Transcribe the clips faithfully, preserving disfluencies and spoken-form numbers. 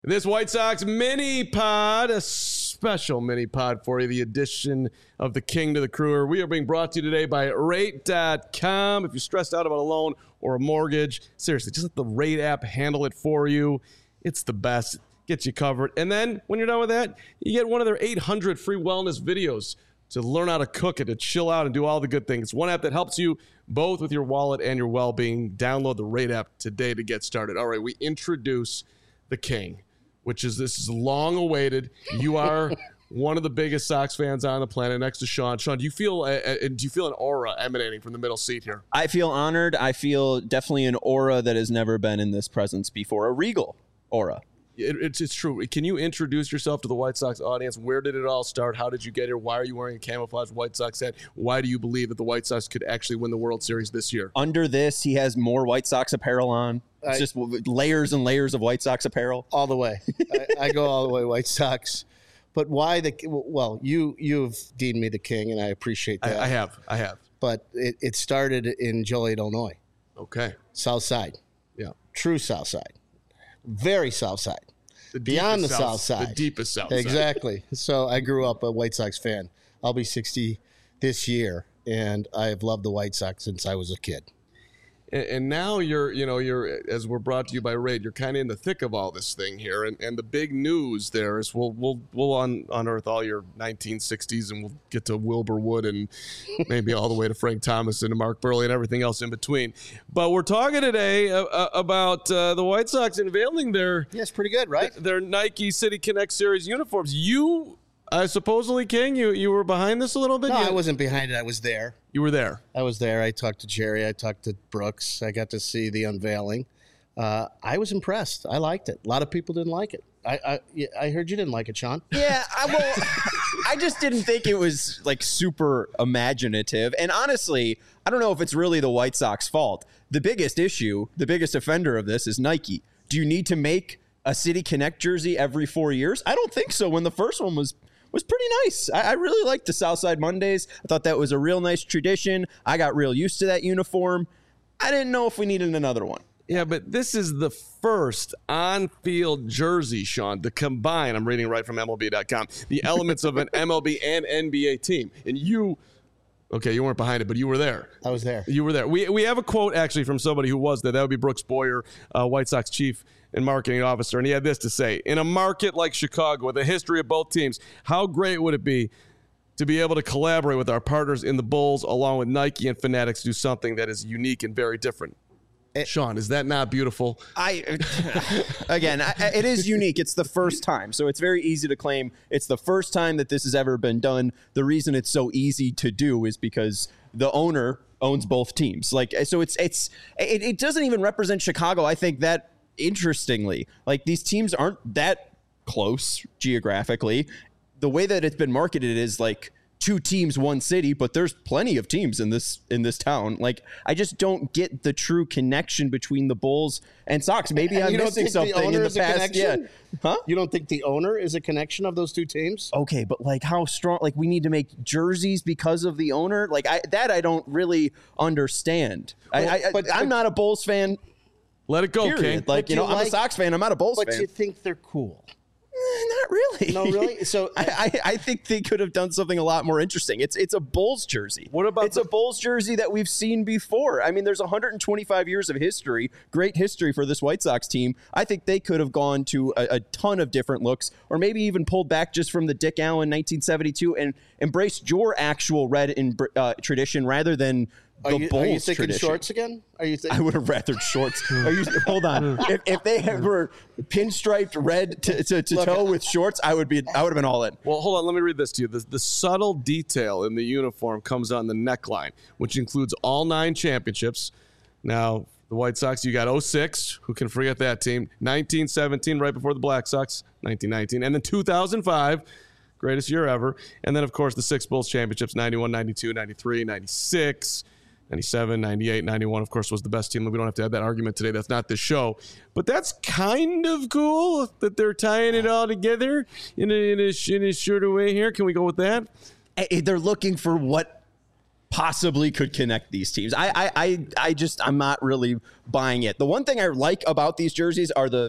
This White Sox mini pod, a special mini pod for you, the addition of the king to the crewer. We are being brought to you today by rate dot com. If you're stressed out about a loan or a mortgage, seriously, just let the Rate app handle it for you. It's the best. Gets you covered. And then when you're done with that, you get one of their eight hundred free wellness videos to learn how to cook it, to chill out and do all the good things. One app that helps you both with your wallet and your well-being. Download the Rate app today to get started. All right, we introduce the king, which is this is long awaited. You are one of the biggest Sox fans on the planet, next to Sean. Sean, do you feel uh, do you feel an aura emanating from the middle seat here? I feel honored. I feel definitely an aura that has never been in this presence before. A regal aura. It, it's it's true. Can you introduce yourself to the White Sox audience? Where did it all start? How did you get here? Why are you wearing a camouflage White Sox hat? Why do you believe that the White Sox could actually win the World Series this year? Under this, he has more White Sox apparel on. It's I, just layers and layers of White Sox apparel. All the way. I, I go all the way White Sox. But why the – well, you, you've deemed me the king, and I appreciate that. I, I have. I have. But it, it started in Joliet, Illinois. Okay. South Side. Yeah. True South Side. Very South Side. The Beyond the south, south Side. The deepest South Side. Exactly. So I grew up a White Sox fan. I'll be sixty this year, and I have loved the White Sox since I was a kid. And, and now you're, you know, you're as we're brought to you by Raid, you're kind of in the thick of all this thing here. And, and the big news there is we'll we'll we'll un, unearth all your nineteen sixties, and we'll get to Wilbur Wood and maybe all the way to Frank Thomas and to Mark Burley and everything else in between. But we're talking today uh, about uh, the White Sox unveiling their yeah, it's pretty good, right? Their Nike City Connect Series uniforms. You. Uh, supposedly, King, you, you were behind this a little bit? No, you, I wasn't behind it. I was there. You were there. I was there. I talked to Jerry. I talked to Brooks. I got to see the unveiling. Uh, I was impressed. I liked it. A lot of people didn't like it. I I, I heard you didn't like it, Sean. Yeah, I, well, I just didn't think it was like super imaginative. And honestly, I don't know if it's really the White Sox fault. The biggest issue, the biggest offender of this is Nike. Do you need to make a City Connect jersey every four years? I don't think so. When the first one was was pretty nice. I, I really liked the Southside Mondays. I thought that was a real nice tradition. I got real used to that uniform. I didn't know if we needed another one. Yeah, but this is the first on-field jersey, Sean, to combine, I'm reading right from M L B dot com, the elements of an M L B and N B A team. And you, okay, you weren't behind it, but you were there. I was there. You were there. We we have a quote, actually, from somebody who was there. That would be Brooks Boyer, uh, White Sox chief and marketing officer, and he had this to say: in a market like Chicago, with a history of both teams, how great would it be to be able to collaborate with our partners in the Bulls, along with Nike and Fanatics, to do something that is unique and very different? It, Sean, is that not beautiful? I again, I, it is unique. It's the first time, so it's very easy to claim it's the first time that this has ever been done. The reason it's so easy to do is because the owner owns both teams. Like, so it's it's it, it doesn't even represent Chicago. I think that. Interestingly, like these teams aren't that close geographically. The way that it's been marketed is like two teams, one city, but there's plenty of teams in this in this town. Like, I just don't get the true connection between the Bulls and Sox. Maybe and I'm missing something the in the past. Yeah, huh? You don't think the owner is a connection of those two teams? Okay, but like how strong? Like we need to make jerseys because of the owner. Like I that I don't really understand. Well, I, I, but, I'm but, not a Bulls fan. Let it go, Period. King. Like, you know, I'm like, a Sox fan. I'm not a Bulls but fan. But you think they're cool. Not really. No, really? So I, I, I think they could have done something a lot more interesting. It's it's a Bulls jersey. What about it's the- a Bulls jersey that we've seen before. I mean, there's one hundred twenty-five years of history, great history for this White Sox team. I think they could have gone to a, a ton of different looks, or maybe even pulled back just from the Dick Allen nineteen seventy-two and embraced your actual red in, uh, tradition rather than the are you, Bulls are you thinking tradition. Shorts again? Are you? Th- I would have rathered shorts. Are you, hold on. If, if they were pinstriped red to, to, to Look, toe with shorts, I would be. I would have been all in. Well, hold on. Let me read this to you. The, the subtle detail in the uniform comes on the neckline, which includes all nine championships. Now, the White Sox, you got oh six. Who can forget that team? nineteen seventeen, right before the Black Sox, nineteen nineteen, and then two thousand five. Greatest year ever. And then, of course, the six Bulls championships, ninety-one, ninety-two, ninety-three, ninety-six, ninety-seven, ninety-eight, ninety-one, of course, was the best team. We don't have to have that argument today. That's not the show. But that's kind of cool that they're tying it all together in a, in a, in a shorter way here. Can we go with that? They're looking for what possibly could connect these teams. I, I, I, I just, I'm not really buying it. The one thing I like about these jerseys are the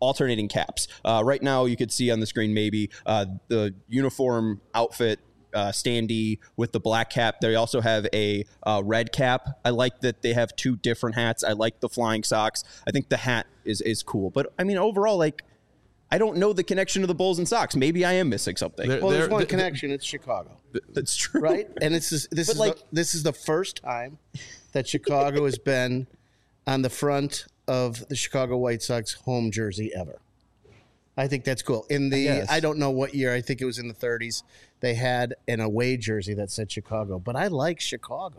alternating caps. Uh, right now, you could see on the screen maybe uh, the uniform outfit. Uh, standee with the black cap. They also have a uh, red cap. I like that they have two different hats. I like the flying socks. I think the hat is is cool. But I mean, overall, like, I don't know the connection to the Bulls and Sox. Maybe I am missing something. Well, there's one connection. It's Chicago. That's true, right? And it's this, this is like, the, this is the first time that Chicago has been on the front of the Chicago White Sox home jersey ever. I think that's cool. In the I, I don't know what year. I think it was in the thirties. They had an away jersey that said Chicago, but I like Chicago.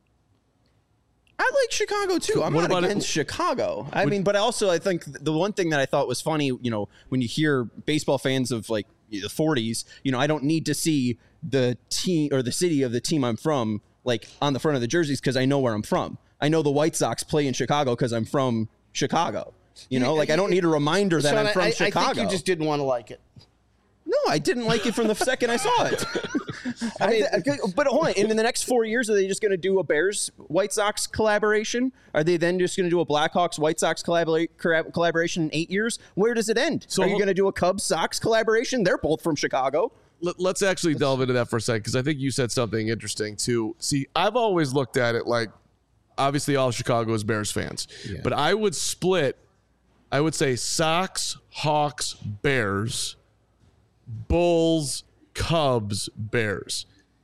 I like Chicago too. I'm what not against it? Chicago. I Would, mean, but also I think the one thing that I thought was funny, you know, when you hear baseball fans of like the forties, you know, I don't need to see the team or the city of the team I'm from like on the front of the jerseys because I know where I'm from. I know the White Sox play in Chicago because I'm from Chicago. You know, like I don't need a reminder that Sean, I'm from I, Chicago. I think you just didn't want to like it. No, I didn't like it from the second I saw it. I mean, I, but hold on. In the next four years, are they just going to do a Bears White Sox collaboration? Are they then just going to do a Blackhawks White Sox collabora- collaboration in eight years? Where does it end? So are you going to do a Cubs Sox collaboration? They're both from Chicago. Let's actually delve into that for a second because I think you said something interesting too. See, I've always looked at it like obviously all Chicago is Bears fans, yeah. but I would split. I would say Sox, Hawks, Bears, Bulls, Cubs, Bears.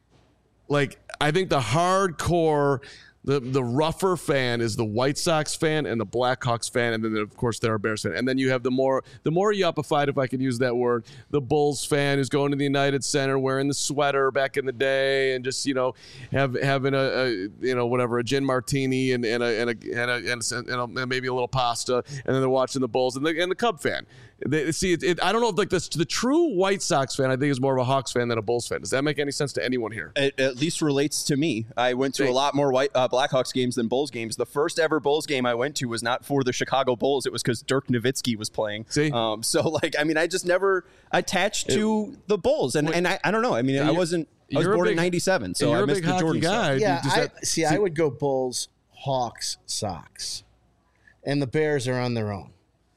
Like, I think the hardcore, the the rougher fan is the White Sox fan and the Blackhawks fan, and then of course they're a Bears fan. And then you have the more the more yuppified, if I could use that word, the Bulls fan who's going to the United Center wearing the sweater back in the day and just, you know, have having a, a you know whatever a gin martini and, and a and a and a, and, a, and, a, and maybe a little pasta, and then they're watching the Bulls and the and the Cub fan. They, see, it, it, I don't know if like this the true White Sox fan I think is more of a Hawks fan than a Bulls fan. Does that make any sense to anyone here? It at least relates to me. I went to a lot more White uh, Blackhawks games than Bulls games. The first ever Bulls game I went to was not for the Chicago Bulls. It was because Dirk Nowitzki was playing. See, um, so like I mean, I just never attached it, to the Bulls, and and I, I don't know. I mean, I wasn't. I was born big, in ninety-seven, so I missed the Jordan guy. Yeah, I, that, see, see, I would go Bulls, Hawks, Sox, and the Bears are on their own.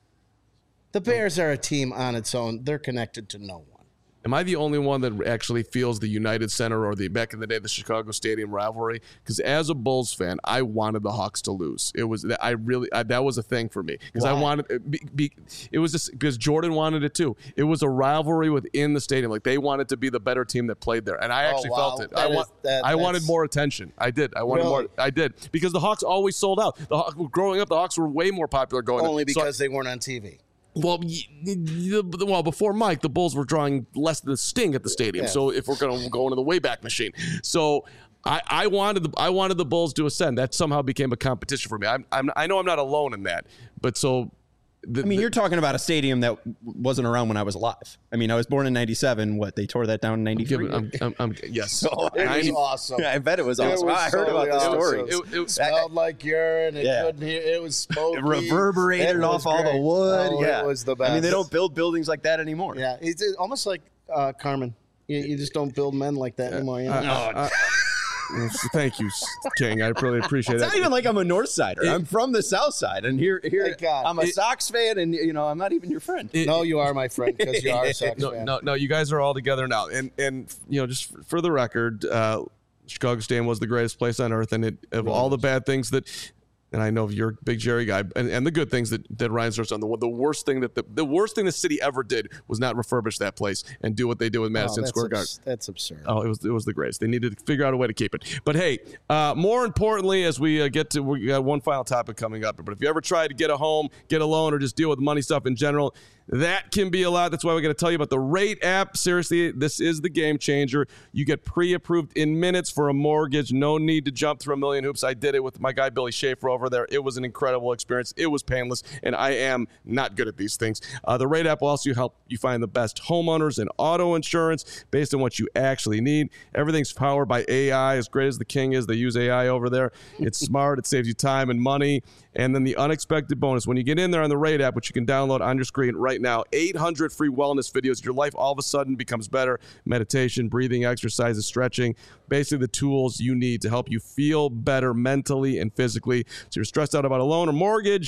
The Bears are a team on its own. They're connected to no one. Am I the only one that actually feels the United Center or the back in the day the Chicago Stadium rivalry? Because as a Bulls fan, I wanted the Hawks to lose. It was I really I, that was a thing for me because I wanted be, be, it was just because Jordan wanted it too. It was a rivalry within the stadium. Like they wanted to be the better team that played there, and I actually oh, wow. felt it. That I want that, I wanted more attention. I did. I wanted really? more. I did because the Hawks always sold out. The Hawks, growing up, the Hawks were way more popular going only to, because so, they weren't on T V. Well, well, before Mike, the Bulls were drawing less than a sting at the stadium. Yeah. So if we're going to go into the Wayback Machine, so I, I wanted the I wanted the Bulls to ascend. That somehow became a competition for me. I'm, I'm I know I'm not alone in that, but so. The, I mean, the, you're talking about a stadium that wasn't around when I was alive. I mean, I was born in ninety-seven. What, they tore that down in ninety-three? I'm, I'm, I'm, yes. So it was awesome. Yeah, I bet it was awesome. It was I heard totally about the story. Awesome. It, it smelled like urine. It yeah. couldn't hear. It was smoky. It reverberated it off great. all the wood. Oh, yeah. It was the best. I mean, they don't build buildings like that anymore. Yeah. It's almost like uh, Carmen. You, you just don't build men like that anymore. You know? uh, uh, Thank you, King. I really appreciate it's that. It's not even like I'm a North Sider. It, I'm from the South Side, and here, here I'm a it, Sox fan, and you know I'm not even your friend. It, no, you are my friend because you are a Sox no, fan. No, no, you guys are all together now, and and you know, just for the record, uh, Chicago Stadium was the greatest place on earth, and it, of really all the bad things that. And I know you're a big Jerry guy, and, and the good things that, that Reinsdorf's done. The, the worst thing that the, the worst thing the city ever did was not refurbish that place and do what they did with Madison oh, Square Garden. Abs- that's absurd. Oh, it was it was the greatest. They needed to figure out a way to keep it. But hey, uh, more importantly, as we uh, get to, we got one final topic coming up. But if you ever tried to get a home, get a loan, or just deal with money stuff in general, that can be a lot. That's why we're going to tell you about the Rate app. Seriously, this is the game changer. You get pre-approved in minutes for a mortgage. No need to jump through a million hoops. I did it with my guy Billy Schaefer over there. It was an incredible experience. It was painless, and I am not good at these things. Uh, the Rate app will also help you find the best homeowners and auto insurance based on what you actually need. Everything's powered by A I. As great as the King is, they use A I over there. It's smart. It saves you time and money. And then the unexpected bonus, when you get in there on the Rate app, which you can download on your screen right now, eight hundred free wellness videos. Your life all of a sudden becomes better. Meditation, breathing exercises, stretching, basically the tools you need to help you feel better mentally and physically. So you're stressed out about a loan or mortgage,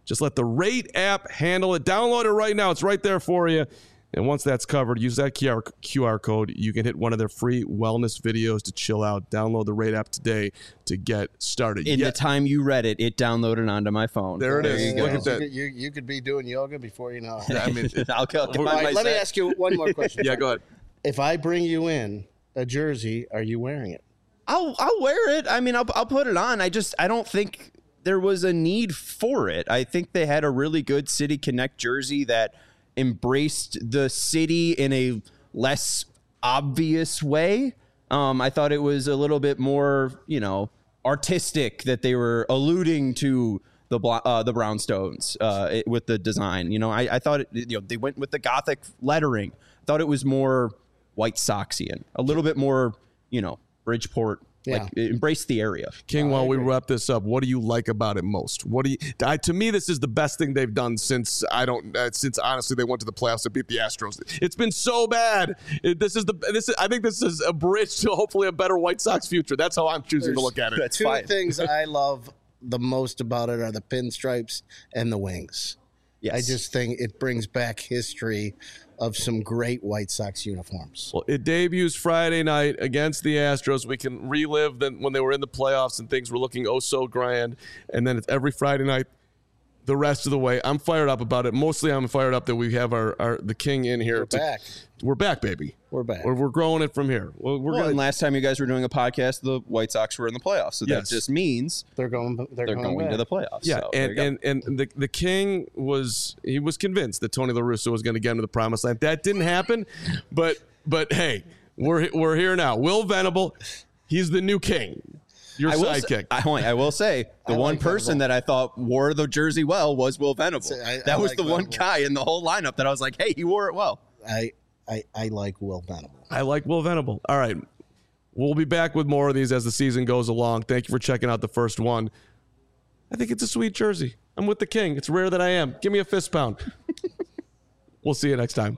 Just let the Rate app handle it. Download it right now. It's right there for you. And once that's covered, use that Q R, Q R code. You can hit one of their free wellness videos to chill out. Download the Rate app today to get started. In yeah. the time you read it, it downloaded onto my phone. There it There is. you Look go. at that. You, you could be doing yoga before you know it. I mean, I'll, I'll get All my, right, my let me set. ask you one more question. yeah, go ahead. If I bring you in a jersey, are you wearing it? I'll I'll wear it. I mean, I'll I'll put it on. I just I don't think there was a need for it. I think they had a really good City Connect jersey that embraced the city in a less obvious way. Um, I thought it was a little bit more, you know, artistic, that they were alluding to the uh, the brownstones uh, it, with the design. You know, I, I thought it, you know, they went with the Gothic lettering. I thought it was more White Soxian, a little bit more, you know, Bridgeport. Yeah. Like, embrace the area. King, Oh, while I we agree. wrap this up, what do you like about it most? What do you? I, to me, this is the best thing they've done since I don't. Uh, since honestly, they went to the playoffs and beat the Astros. It's been so bad. It, this is the. This is, I think this is a bridge to hopefully a better White Sox future. That's how I'm choosing to look at it. That's Two fine. things I love the most about it are the pinstripes and the wings. Yes. I just think it brings back history of some great White Sox uniforms. Well, it debuts Friday night against the Astros. We can relive them when they were in the playoffs and things were looking oh so grand. And then it's every Friday night the rest of the way. I'm fired up about it. Mostly I'm fired up that we have our, our the King in here. We're to- back. We're back, baby. We're back. We're, we're growing it from here. We're, we're Well, gonna, and last time you guys were doing a podcast, the White Sox were in the playoffs. So Yes. that just means They're going. They're, they're going, going back. to the playoffs. Yeah, So, there you and, go. and and the the King was he was convinced that Tony La Russa was going to get him to the promised land. That didn't happen, but but hey, we're we're here now. Will Venable, he's the new king. Your I will, sidekick. say, I, I will say the I one like person Venable. that I thought wore the jersey well was Will Venable. I- I that was like the one Venable. guy in the whole lineup that I was like, hey, he wore it well. I, I I like Will Venable. I like Will Venable. All right. We'll be back with more of these as the season goes along. Thank you for checking out the first one. I think it's a sweet jersey. I'm with the King. It's rare that I am. Give me a fist pound. We'll see you next time.